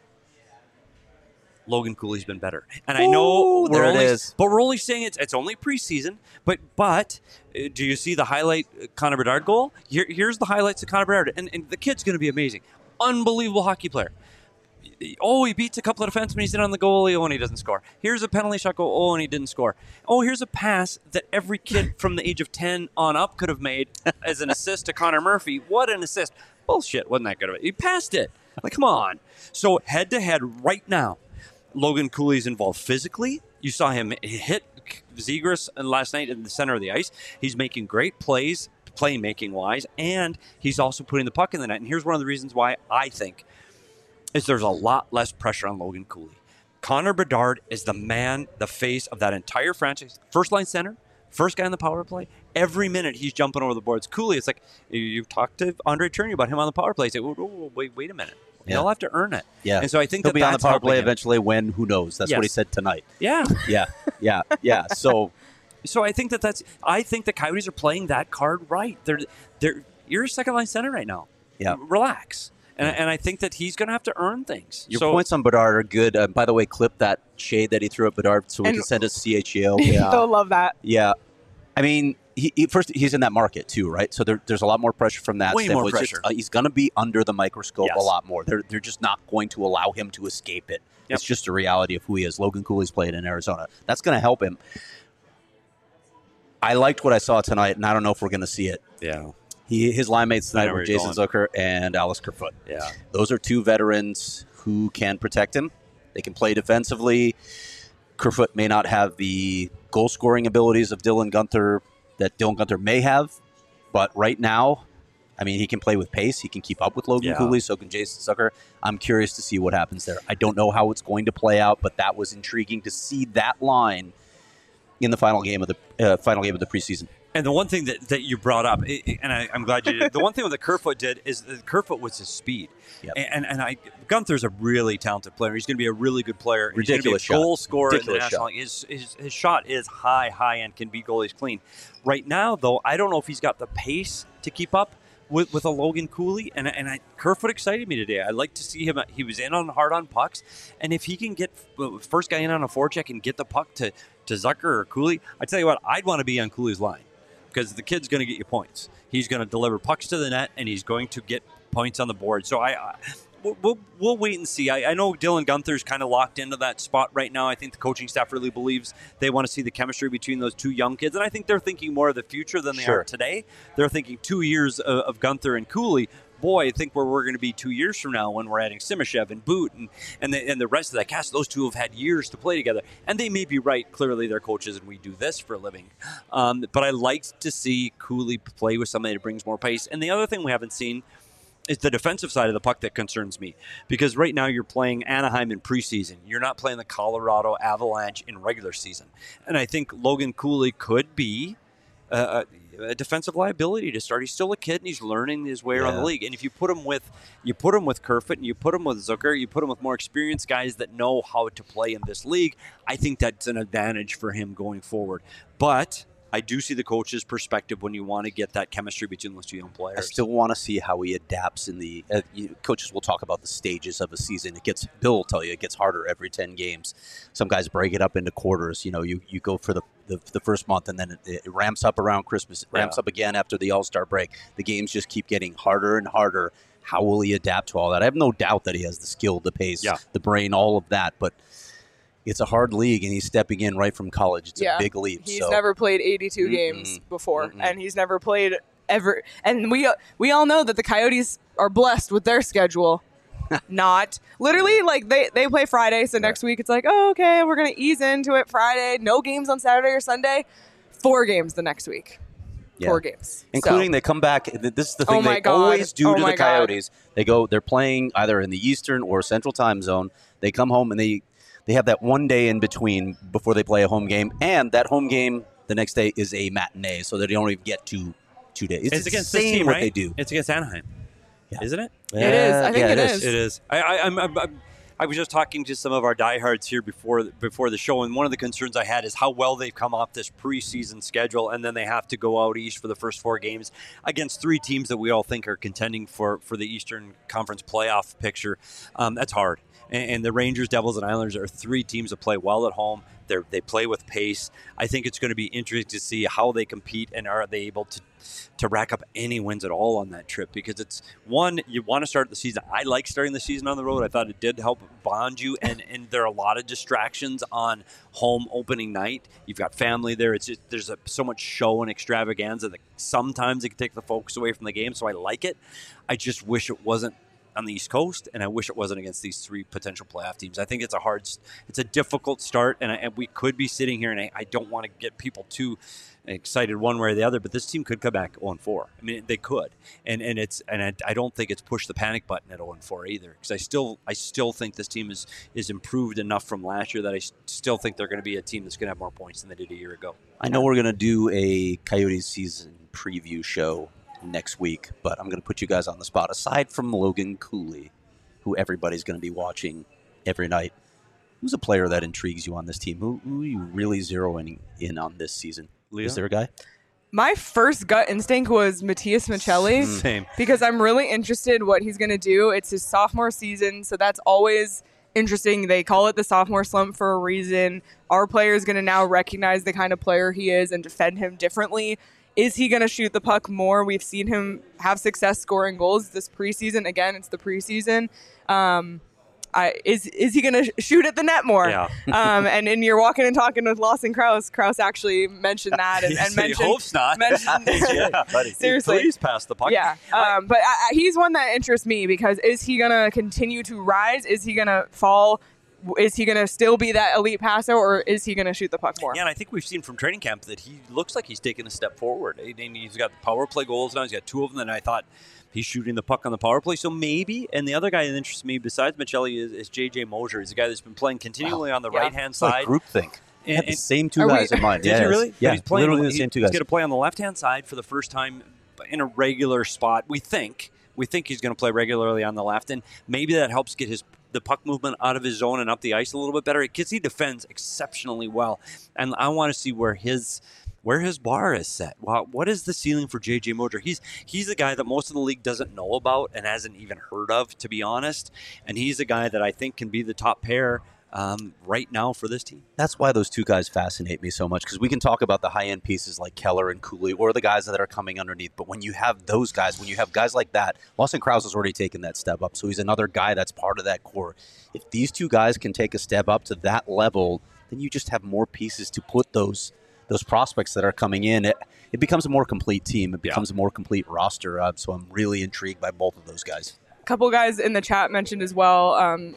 Logan Cooley's been better. And I know we're only saying it's only preseason, but do you see the highlight Connor Bedard goal? Here's the highlights of Connor Bedard. And the kid's going to be amazing. Unbelievable hockey player. He beats a couple of defensemen. He's in on the goalie. And he doesn't score. Here's a penalty shot goal. And he didn't score. Here's a pass that every kid from the age of 10 on up could have made as an assist to Connor Murphy. What an assist. Bullshit. Wasn't that good of it? He passed it. Like, come on. So head-to-head right now, Logan Cooley's involved physically. You saw him hit Zegras last night in the center of the ice. He's making great plays, playmaking-wise, and he's also putting the puck in the net. And here's one of the reasons why I think is there's a lot less pressure on Logan Cooley. Connor Bedard is the man, the face of that entire franchise. First-line center, first guy on the power play. Every minute he's jumping over the boards. Cooley, it's like you've talked to Andre Tournier about him on the power play. He's like, wait a minute. He'll have to earn it. Yeah. And so I think he'll be on the power play him. eventually when, who knows? That's what he said tonight. Yeah. Yeah. So I think I think the Coyotes are playing that card right. You're a second line center right now. Yeah. Relax. And I think that he's going to have to earn things. Your points on Bedard are good. By the way, clip that shade that he threw at Bedard so we can send it to CHGO. Yeah. They'll love that. Yeah. I mean, he's in that market too, right? So there's a lot more pressure from that. Way more pressure. He's going to be under the microscope a lot more. They're just not going to allow him to escape it. Yep. It's just a reality of who he is. Logan Cooley's played in Arizona. That's going to help him. I liked what I saw tonight, and I don't know if we're going to see it. Yeah. His line mates tonight were Jason Zucker and Alex Kerfoot. Yeah. Those are two veterans who can protect him. They can play defensively. Kerfoot may not have the goal-scoring abilities of Dylan Guenther that Dylan Guenther may have, but right now, I mean, he can play with pace. He can keep up with Logan Cooley, so can Jason Zucker. I'm curious to see what happens there. I don't know how it's going to play out, but that was intriguing to see that line in the final game of the preseason. And the one thing that you brought up, and I'm glad you did, the one thing that Kerfoot did is that Kerfoot was his speed. Yep. And Gunther's a really talented player. He's going to be a really good player. Ridiculous He's going to be a goal shot. scorer in the Ridiculous National League. His shot is high and can beat goalies clean. Right now, though, I don't know if he's got the pace to keep up with a Logan Cooley, and Kerfoot excited me today. I like to see him. He was in on hard on pucks, and if he can get first guy in on a forecheck and get the puck to Zucker or Cooley, I tell you what, I'd want to be on Cooley's line because the kid's going to get you points. He's going to deliver pucks to the net, and he's going to get points on the board. So we'll wait and see. I know Dylan Gunther's kind of locked into that spot right now. I think the coaching staff really believes they want to see the chemistry between those two young kids, and I think they're thinking more of the future than they are today. They're thinking 2 years of Gunther and Cooley. Boy, I think where we're going to be 2 years from now when we're adding Simashev and Boot and the rest of that cast. Those two have had years to play together, and they may be right. Clearly, they're coaches, and we do this for a living. But I like to see Cooley play with somebody that brings more pace. And the other thing we haven't seen is the defensive side of the puck that concerns me, because right now you're playing Anaheim in preseason. You're not playing the Colorado Avalanche in regular season, and I think Logan Cooley could be a defensive liability to start. He's still a kid and he's learning his way around the league. And if you put him with Kerfoot and you put him with Zucker, you put him with more experienced guys that know how to play in this league, I think that's an advantage for him going forward. But I do see the coach's perspective when you want to get that chemistry between those two young players. I still want to see how he adapts in the coaches will talk about the stages of a season. Bill will tell you it gets harder every 10 games. Some guys break it up into quarters. You go for the first month, and then it ramps up around Christmas. It ramps up again after the All-Star break. The games just keep getting harder and harder. How will he adapt to all that? I have no doubt that he has the skill, the pace, the brain, all of that, but it's a hard league, and he's stepping in right from college. It's a big leap. He's never played 82 games before, and he's never played ever. And we all know that the Coyotes are blessed with their schedule. Not. Literally, like, they play Friday, so next week it's like, oh, okay, we're going to ease into it Friday. No games on Saturday or Sunday. 4 games the next week. 4 games. Including they come back. This is the thing they always do to the Coyotes. They're playing either in the Eastern or Central time zone. They come home and they have that one day in between before they play a home game, and that home game the next day is a matinee, so that they don't even get 2 days. It's against this team, what right? they do. It's against Anaheim, isn't it? It is. I think it is. It is. I was just talking to some of our diehards here before the show, and one of the concerns I had is how well they've come off this preseason schedule, and then they have to go out east for the first 4 games against 3 teams that we all think are contending for the Eastern Conference playoff picture. That's hard. And the Rangers, Devils, and Islanders are 3 teams that play well at home. They play with pace. I think it's going to be interesting to see how they compete, and are they able to rack up any wins at all on that trip, because it's one, you want to start the season. I like starting the season on the road. I thought it did help bond you, and there are a lot of distractions on home opening night. You've got family there. It's just, there's so much show and extravaganza that sometimes it can take the focus away from the game, so I like it. I just wish it wasn't on the East Coast, and I wish it wasn't against these 3 potential playoff teams. I think it's a difficult start, and we could be sitting here, and I don't want to get people too excited one way or the other, but this team could come back 0-4. I mean, they could, and I don't think it's pushed the panic button at 0-4 either, because I still think this team is improved enough from last year that I still think they're going to be a team that's going to have more points than they did a year ago. I know we're going to do a Coyotes season preview show next week, but I'm going to put you guys on the spot. Aside from Logan Cooley, who everybody's going to be watching every night, who's a player that intrigues you on this team? Who are you really zeroing in on this season? Leah? Is there a guy? My first gut instinct was Matias Maccelli. Same. Because I'm really interested what he's going to do. It's his sophomore season, so that's always interesting. They call it the sophomore slump for a reason. Our player is going to now recognize the kind of player he is and defend him differently. Is he going to shoot the puck more? We've seen him have success scoring goals this preseason. Again, it's the preseason. Is he going to shoot at the net more? Yeah. And you're walking and talking with Lawson Krause. Krause actually mentioned that and mentioned. He hopes not. Seriously, please pass the puck. Yeah, but he's one that interests me, because is he going to continue to rise? Is he going to fall? Is he going to still be that elite passer, or is he going to shoot the puck more? Yeah, and I think we've seen from training camp that he looks like he's taken a step forward. And he's got the power play goals now. He's got 2 of them, and I thought he's shooting the puck on the power play. So maybe, and the other guy that interests me besides Maccelli is J.J. Mosier. He's a guy that's been playing continually on the right-hand side. Like groupthink. I had the same two Are guys we- in mind. Did you really? Yeah, But he's playing, literally the same two He's guys. going to play on the left-hand side for the first time in a regular spot. We think he's going to play regularly on the left, and maybe that helps get the puck movement out of his zone and up the ice a little bit better because he defends exceptionally well. And I want to see where his bar is set. Wow, what is the ceiling for J.J. Moser? He's a guy that most of the league doesn't know about and hasn't even heard of, to be honest. And he's a guy that I think can be the top pair right now for this team. That's why those two guys fascinate me so much, because we can talk about the high-end pieces like Keller and Cooley or the guys that are coming underneath. But when you have those guys, when you have guys like that, Lawson Krause has already taken that step up. So he's another guy that's part of that core. If these two guys can take a step up to that level, then you just have more pieces to put those prospects that are coming in. It becomes a more complete team. It becomes a more complete roster. So I'm really intrigued by both of those guys. A couple guys in the chat mentioned as well.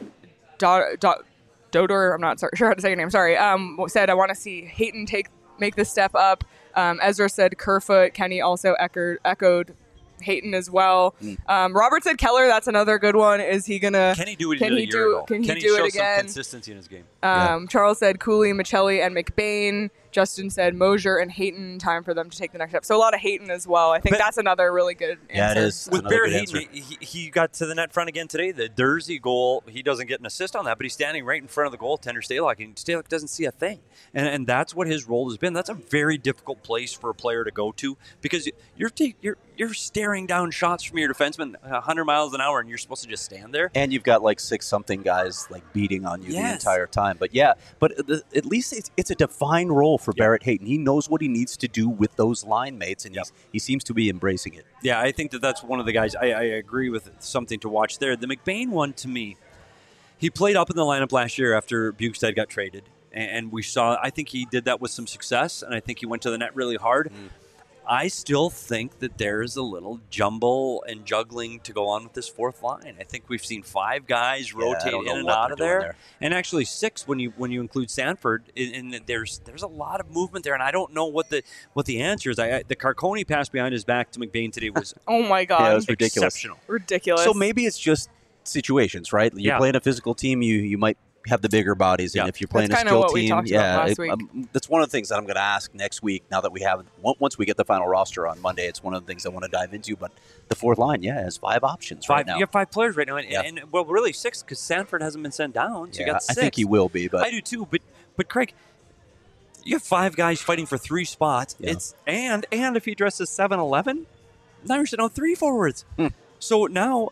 Dodor, I'm not sure how to say your name. Sorry. Said I want to see Hayton make the step up. Ezra said Kerfoot. Kenny also echoed Hayton as well. Robert said Keller. That's another good one. Is he gonna? Can he do what he did a year ago? Can he Can do show it again? some consistency in his game? Charles said Cooley, Michelli, and McBain. Justin said Mosier and Hayton. Time for them to take the next step. So a lot of Hayton as well. I think But- that's another really good answer. Yeah, it is. With Another Barrett good Hayton, he got to the net front again today. The Dursey goal, he doesn't get an assist on that, but he's standing right in front of the goaltender, Stalock, and Stalock doesn't see a thing. And that's what his role has been. That's a very difficult place for a player to go to because you're staring down shots from your defenseman 100 miles an hour, and you're supposed to just stand there. And you've got like 6-something guys like beating on you the entire time. But at least it's a defined role for Barrett Hayton. He knows what he needs to do with those line mates, and he seems to be embracing it. Yeah, I think that's one of the guys. I agree with something to watch there. The McBain one, to me, he played up in the lineup last year after Bukestad got traded. And we saw, I think he did that with some success, and I think he went to the net really hard. I still think that there's a little jumble and juggling to go on with this fourth line. I think we've seen 5 guys rotate in and out of there, and actually 6 when you include Sanford. And there's a lot of movement there, and I don't know what the answer is. The Carcone pass behind his back to McBain today was oh my god, yeah, it was ridiculous. Exceptional. Ridiculous. So maybe it's just situations, right? You're playing a physical team, you might have the bigger bodies, and if you're playing that's a skill what we team, talked about last week. That's one of the things that I'm going to ask next week. Now that we have, once we get the final roster on Monday, it's one of the things I want to dive into. But the fourth line, has 5 options right now. You have 5 players right now, and well, really 6 because Sanford hasn't been sent down. So you got 6. I think he will be, but I do too. But Craig, you have 5 guys fighting for 3 spots. Yeah. And if he dresses 7-11, now you're sitting on 3 forwards. So now,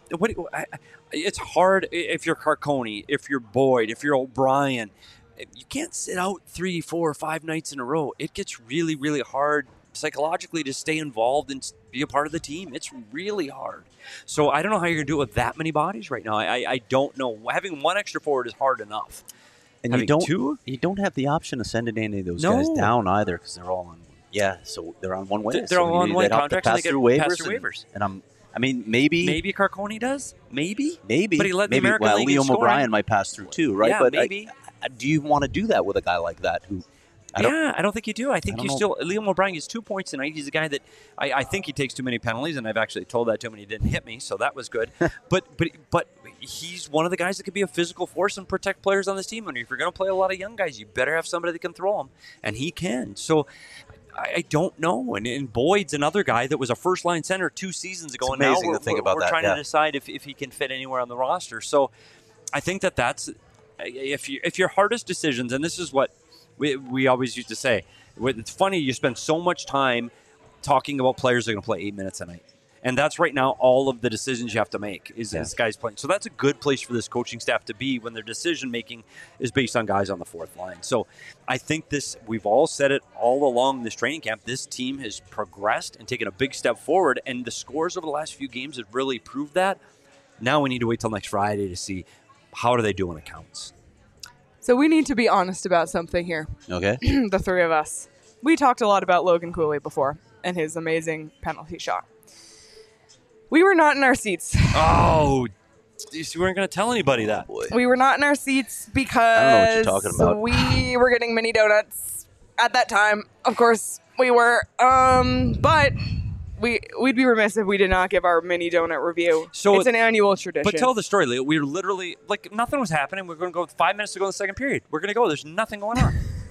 it's hard if you're Carcone, if you're Boyd, if you're O'Brien. You can't sit out 3, 4, 5 nights in a row. It gets really, really hard psychologically to stay involved and be a part of the team. It's really hard. So I don't know how you're going to do it with that many bodies right now. I don't know. Having 1 extra forward is hard enough. And Having you don't have the option of sending any of those guys down either because they're all on. Yeah, so they're on one way. They're all on one contract and they get pass through waivers. And maybe Carcone does. Maybe. But he led the American League in Liam scoring. O'Brien might pass through too, right? Yeah, but maybe. Do you want to do that with a guy like that who? I don't think you do. I think Liam O'Brien gets 2 points tonight. He's a guy that I think he takes too many penalties, and I've actually told that to him, and he didn't hit me, so that was good. but he's one of the guys that could be a physical force and protect players on this team. And if you're going to play a lot of young guys, you better have somebody that can throw them, and he can. So I don't know. And Boyd's another guy that was a first-line center 2 seasons ago, and now we're trying to decide if he can fit anywhere on the roster. So I think that's if your hardest decisions, and this is what we always used to say. It's funny, you spend so much time talking about players that are going to play 8 minutes a night. And that's right now all of the decisions you have to make is this guy's playing. So that's a good place for this coaching staff to be when their decision-making is based on guys on the fourth line. So I think we've all said it all along this training camp, this team has progressed and taken a big step forward, and the scores over the last few games have really proved that. Now we need to wait till next Friday to see how do they do when it counts. So we need to be honest about something here. Okay. The 3 of us. We talked a lot about Logan Cooley before and his amazing penalty shot. We were not in our seats. Oh, you weren't going to tell anybody that. We were not in our seats because I don't know what you're talking about. We were getting mini donuts at that time. Of course, we were. But we'd be remiss if we did not give our mini donut review. So it's an annual tradition. But tell the story, Leo. We were literally, nothing was happening. We're going to go 5 minutes to go in the second period. We're going to go. There's nothing going on.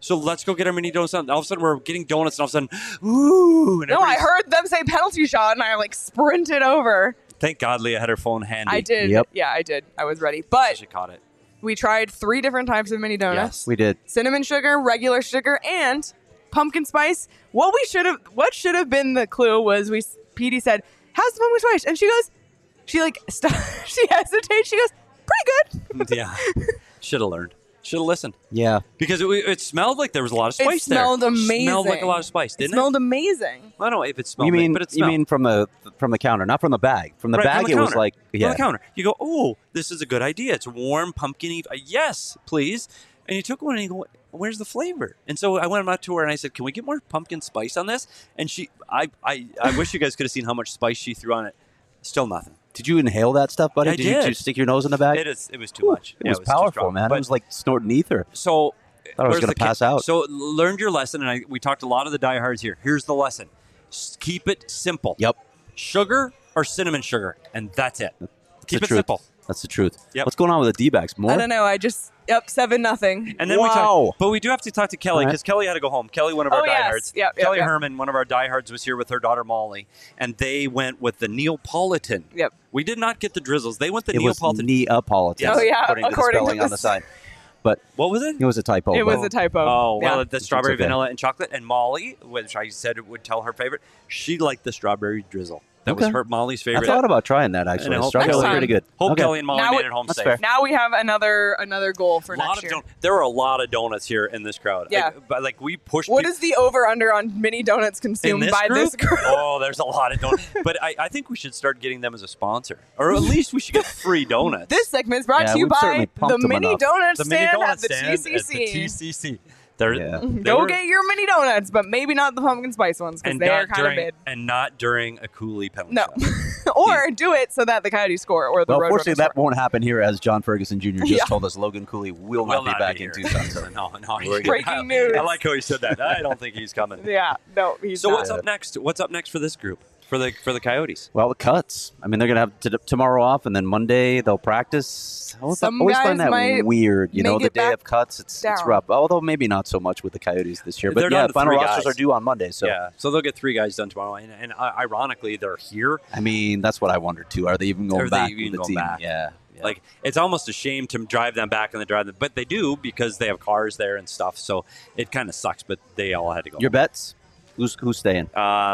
So let's go get our mini donuts. And all of a sudden, we're getting donuts, and all of a sudden, ooh. And No, I heard them say penalty shot, and I like sprinted over. Thank God Leah had her phone handy. I did. Yep. Yeah, I did. I was ready. But She caught it. we tried 3 different types of mini donuts. We did. Cinnamon sugar, regular sugar, and pumpkin spice. What should have been the clue was Petey said, "How's the pumpkin spice?" And she goes, she hesitates. She goes, "Pretty good." Yeah. Should have learned. Should have listened. Yeah. Because it smelled like there was a lot of spice there. It smelled amazing. Smelled like a lot of spice, didn't it? Smelled amazing. I don't know if it smelled, You but it smelled. mean from the counter, not from the bag. From the Right, bag, from the it was counter. like On the counter. You go, oh, this is a good idea. It's warm, pumpkin-y. Yes, please. And you took one and you go, where's the flavor? And so I went up to her and I said, can we get more pumpkin spice on this? And I wish you guys could have seen how much spice she threw on it. Still nothing. Did you inhale that stuff, buddy? I did. You stick your nose in the bag? It was too much. It Yeah, was too powerful, strong. man. But It was like snorting ether. so Thought I was where's gonna the pass out. So learned your lesson, and we talked to a lot of the diehards here. Here's the lesson: keep it simple. Yep. Sugar or cinnamon sugar, and that's it. Keep the it truth. simple. That's the truth. Yep. What's going on with the D-backs? More? I don't know. 7-0. And then Wow. but we do have to talk to Kelly because Kelly had to go home. Kelly, one of our Oh, yes. diehards. Yep, Kelly yep. Herman, one of our diehards, was here with her daughter Molly, and they went with the Neapolitan. Yep. We did not get the drizzles. They went the It was Neapolitan. Neapolitan. Oh, yeah, According to the according to spelling on the the side. But What was it? it was a typo. It was but- a typo. Oh, well, Yeah. the strawberry, okay. vanilla, and chocolate. And Molly, which I said would tell her favorite, she liked the strawberry drizzle. That was Okay. her Molly's I favorite. thought about trying that, And I actually. hope Strawberry next was time. pretty good. Hope Okay. Kelly and Molly Now made it- it home That's safe. fair. Now we have another goal for next year. There were a lot of donuts here in this crowd. Yeah. But we pushed. What peop- is the over/under on mini donuts in consumed this by group? this group? Oh, there's a lot of donuts. But I think we should start getting them as a sponsor, or at least we should get free donuts. This segment is brought Yeah, to you we've certainly by pumped the them mini enough. donut the mini stand donut at the stand TCC. At the TCC. Yeah. Go get your mini donuts, but maybe not the pumpkin spice ones because and they are not kind of during mid. and not during a Cooley penalty. No. shot. Or do it so that the Coyotes score or the Well, Roadrunners fortunately, that score. won't happen here, as John Ferguson Jr. just Yeah. told us Logan Cooley will Will not be back here. in Tucson. So. no. We're good. Breaking news. I like how he said that. I don't think he's coming. Yeah, no, he's So not. what's up next? What's up next for this group? For the Coyotes? Well, the cuts. I mean, they're going to have tomorrow off, and then Monday they'll practice. I Some always guys find that might weird. You know, make the it day back of cuts, it's down. rough. Although maybe not so much with the Coyotes this year. But They're yeah, down to final 3 rosters guys. are due on Monday. So Yeah, so they'll get 3 guys done tomorrow, and ironically, they're here. I mean, that's what I wondered too. Are they even going Are they back even with the going team? back? Yeah. Like, it's almost a shame to drive them back and they drive them, but they do because they have cars there and stuff. So it kind of sucks, but they all had to go. Your bets? Who's staying?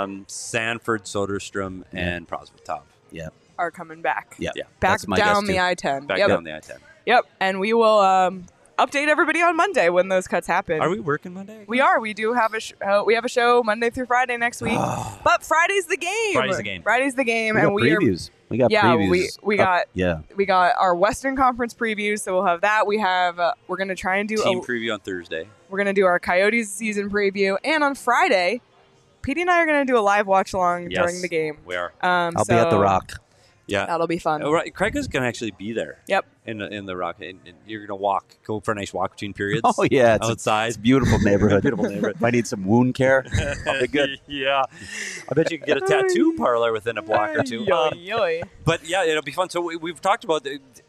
Sanford, Soderstrom, and Prosvetov. Yeah. Are coming back. Yeah. Yeah. Back That's my down guess, the too. I-10. Back Yep. down the I-10. Yep. And we will update everybody on Monday when those cuts happen. Are we working Monday? We are. We do have a show Monday through Friday next week. But Friday's the game. Friday's the game. Friday's the game, We got and we are. previews. We got Yeah, previews. we up- got- Yeah. We got our Western Conference previews, so we'll have that. We have. We're gonna try and do. Team preview on Thursday. We're gonna do our Coyotes season preview, and on Friday, Petey and I are gonna do a live watch along Yes, during the game. We are. I'll be at the Rock. Yeah. That'll be fun. Oh, right. Craig is going to actually be there. Yep. In the Rock. And you're going to go for a nice walk between periods. Oh yeah, it's outside. It's a beautiful neighborhood. Beautiful neighborhood. Might need some wound care. I'll be good. Yeah. I bet you can get a tattoo parlor within a block or two. Yoy. But yeah, it'll be fun. So we've talked about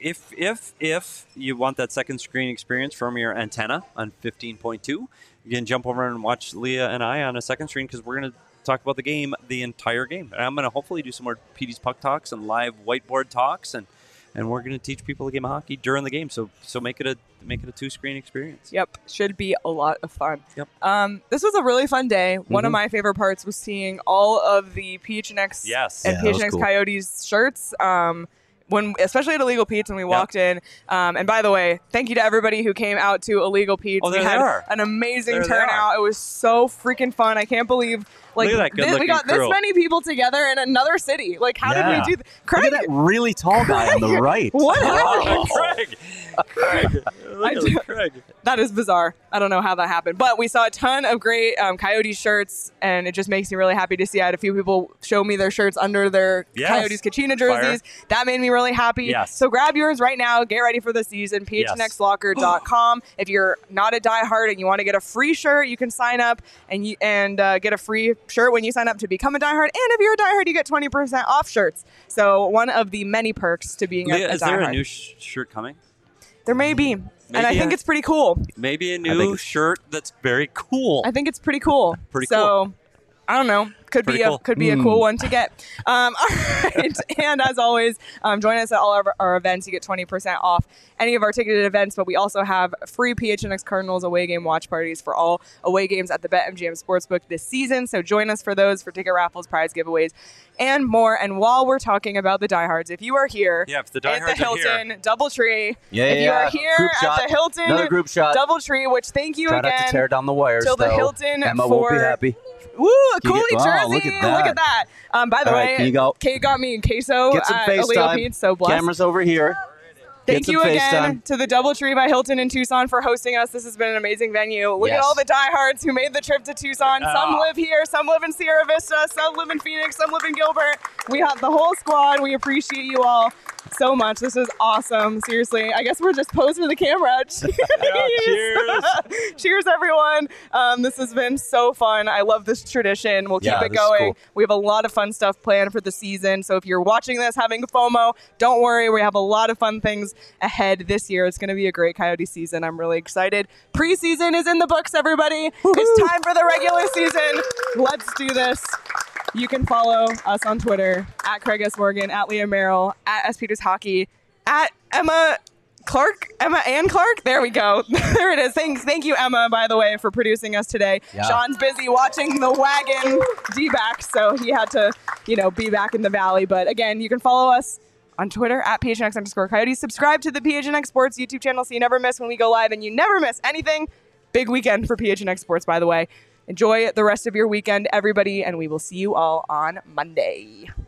if you want that second screen experience from your antenna on 15.2, you can jump over and watch Leah and I on a second screen because we're going to talk about the game, the entire game. And I'm going to hopefully do some more PD's Puck Talks and live whiteboard talks, and we're going to teach people the game of hockey during the game. So make it a 2-screen experience. Yep, should be a lot of fun. Yep. This was a really fun day. One of my favorite parts was seeing all of the PHNX Yes. and Yeah, that was PHNX cool. Coyotes shirts. Especially at Illegal Pete's when we walked in. And by the way, thank you to everybody who came out to Illegal Pete's. Oh, there we they had are. an amazing There they turnout. are. It was so freaking fun. I can't believe Look at that we good-looking got this crew. many people together in another city. Like, how did Yeah. we do that? Look Craig, at that really tall guy on the right. what happened? Craig. Look at Craig. That is bizarre. I don't know how that happened. But we saw a ton of great Coyotes shirts, and it just makes me really happy to see. I had a few people show me their shirts under their Yes. Coyotes Kachina jerseys. That made me really happy. Yes. So grab yours right now. Get ready for the season. PHNXlocker.com. If you're not a diehard and you want to get a free shirt, you can sign up and get a free shirt when you sign up to become a diehard. And if you're a diehard, you get 20% off shirts. So one of the many perks to being Leah, a is there diehard. a new shirt coming? There may be. And I think it's pretty cool. Maybe a new shirt that's very cool. I think it's pretty cool. Pretty cool. So, I don't know. Could be a cool one to get. All right. And as always, join us at all of our events. You get 20% off any of our ticketed events, but we also have free PHNX Cardinals away game watch parties for all away games at the BetMGM Sportsbook this season. So join us for those, for ticket raffles, prize giveaways, and more. And while we're talking about the diehards, if you are here if the at the Hilton Doubletree, if you are here at the Hilton Doubletree, which thank you again. Try not to tear down the wires, till the Hilton Emma won't be happy. Woo, a Cooley jersey. Look at that. By the way, Kate got me in queso at Illegal Pete's, so blessed. Camera's over here. Thank you again to the Doubletree by Hilton in Tucson for hosting us. This has been an amazing venue. Look at all the diehards who made the trip to Tucson. Some live here, some live in Sierra Vista, some live in Phoenix, some live in Gilbert. We have the whole squad. We appreciate you all so much. This is awesome. Seriously, I guess we're just posing for the camera. Cheers. Cheers, everyone. This has been so fun. I love this tradition. We'll keep it going. Cool. We have a lot of fun stuff planned for the season. So if you're watching this having FOMO, don't worry. We have a lot of fun things ahead this year. It's going to be a great Coyote season. I'm really excited. Preseason is in the books, everybody. Woo-hoo. It's time for the regular season. Let's do this. You can follow us on Twitter at Craig S. Morgan, at Leah Merrill, at S. Peters Hockey, at Emma Ann Clark. There we go. There it is. Thank you, Emma, by the way, for producing us today. Yeah. Sean's busy watching the wagon D-back, so he had to, be back in the valley. But again, you can follow us on Twitter at PHNX_Coyotes. Subscribe to the PHNX Sports YouTube channel so you never miss when we go live and you never miss anything. Big weekend for PHNX Sports, by the way. Enjoy the rest of your weekend, everybody, and we will see you all on Monday.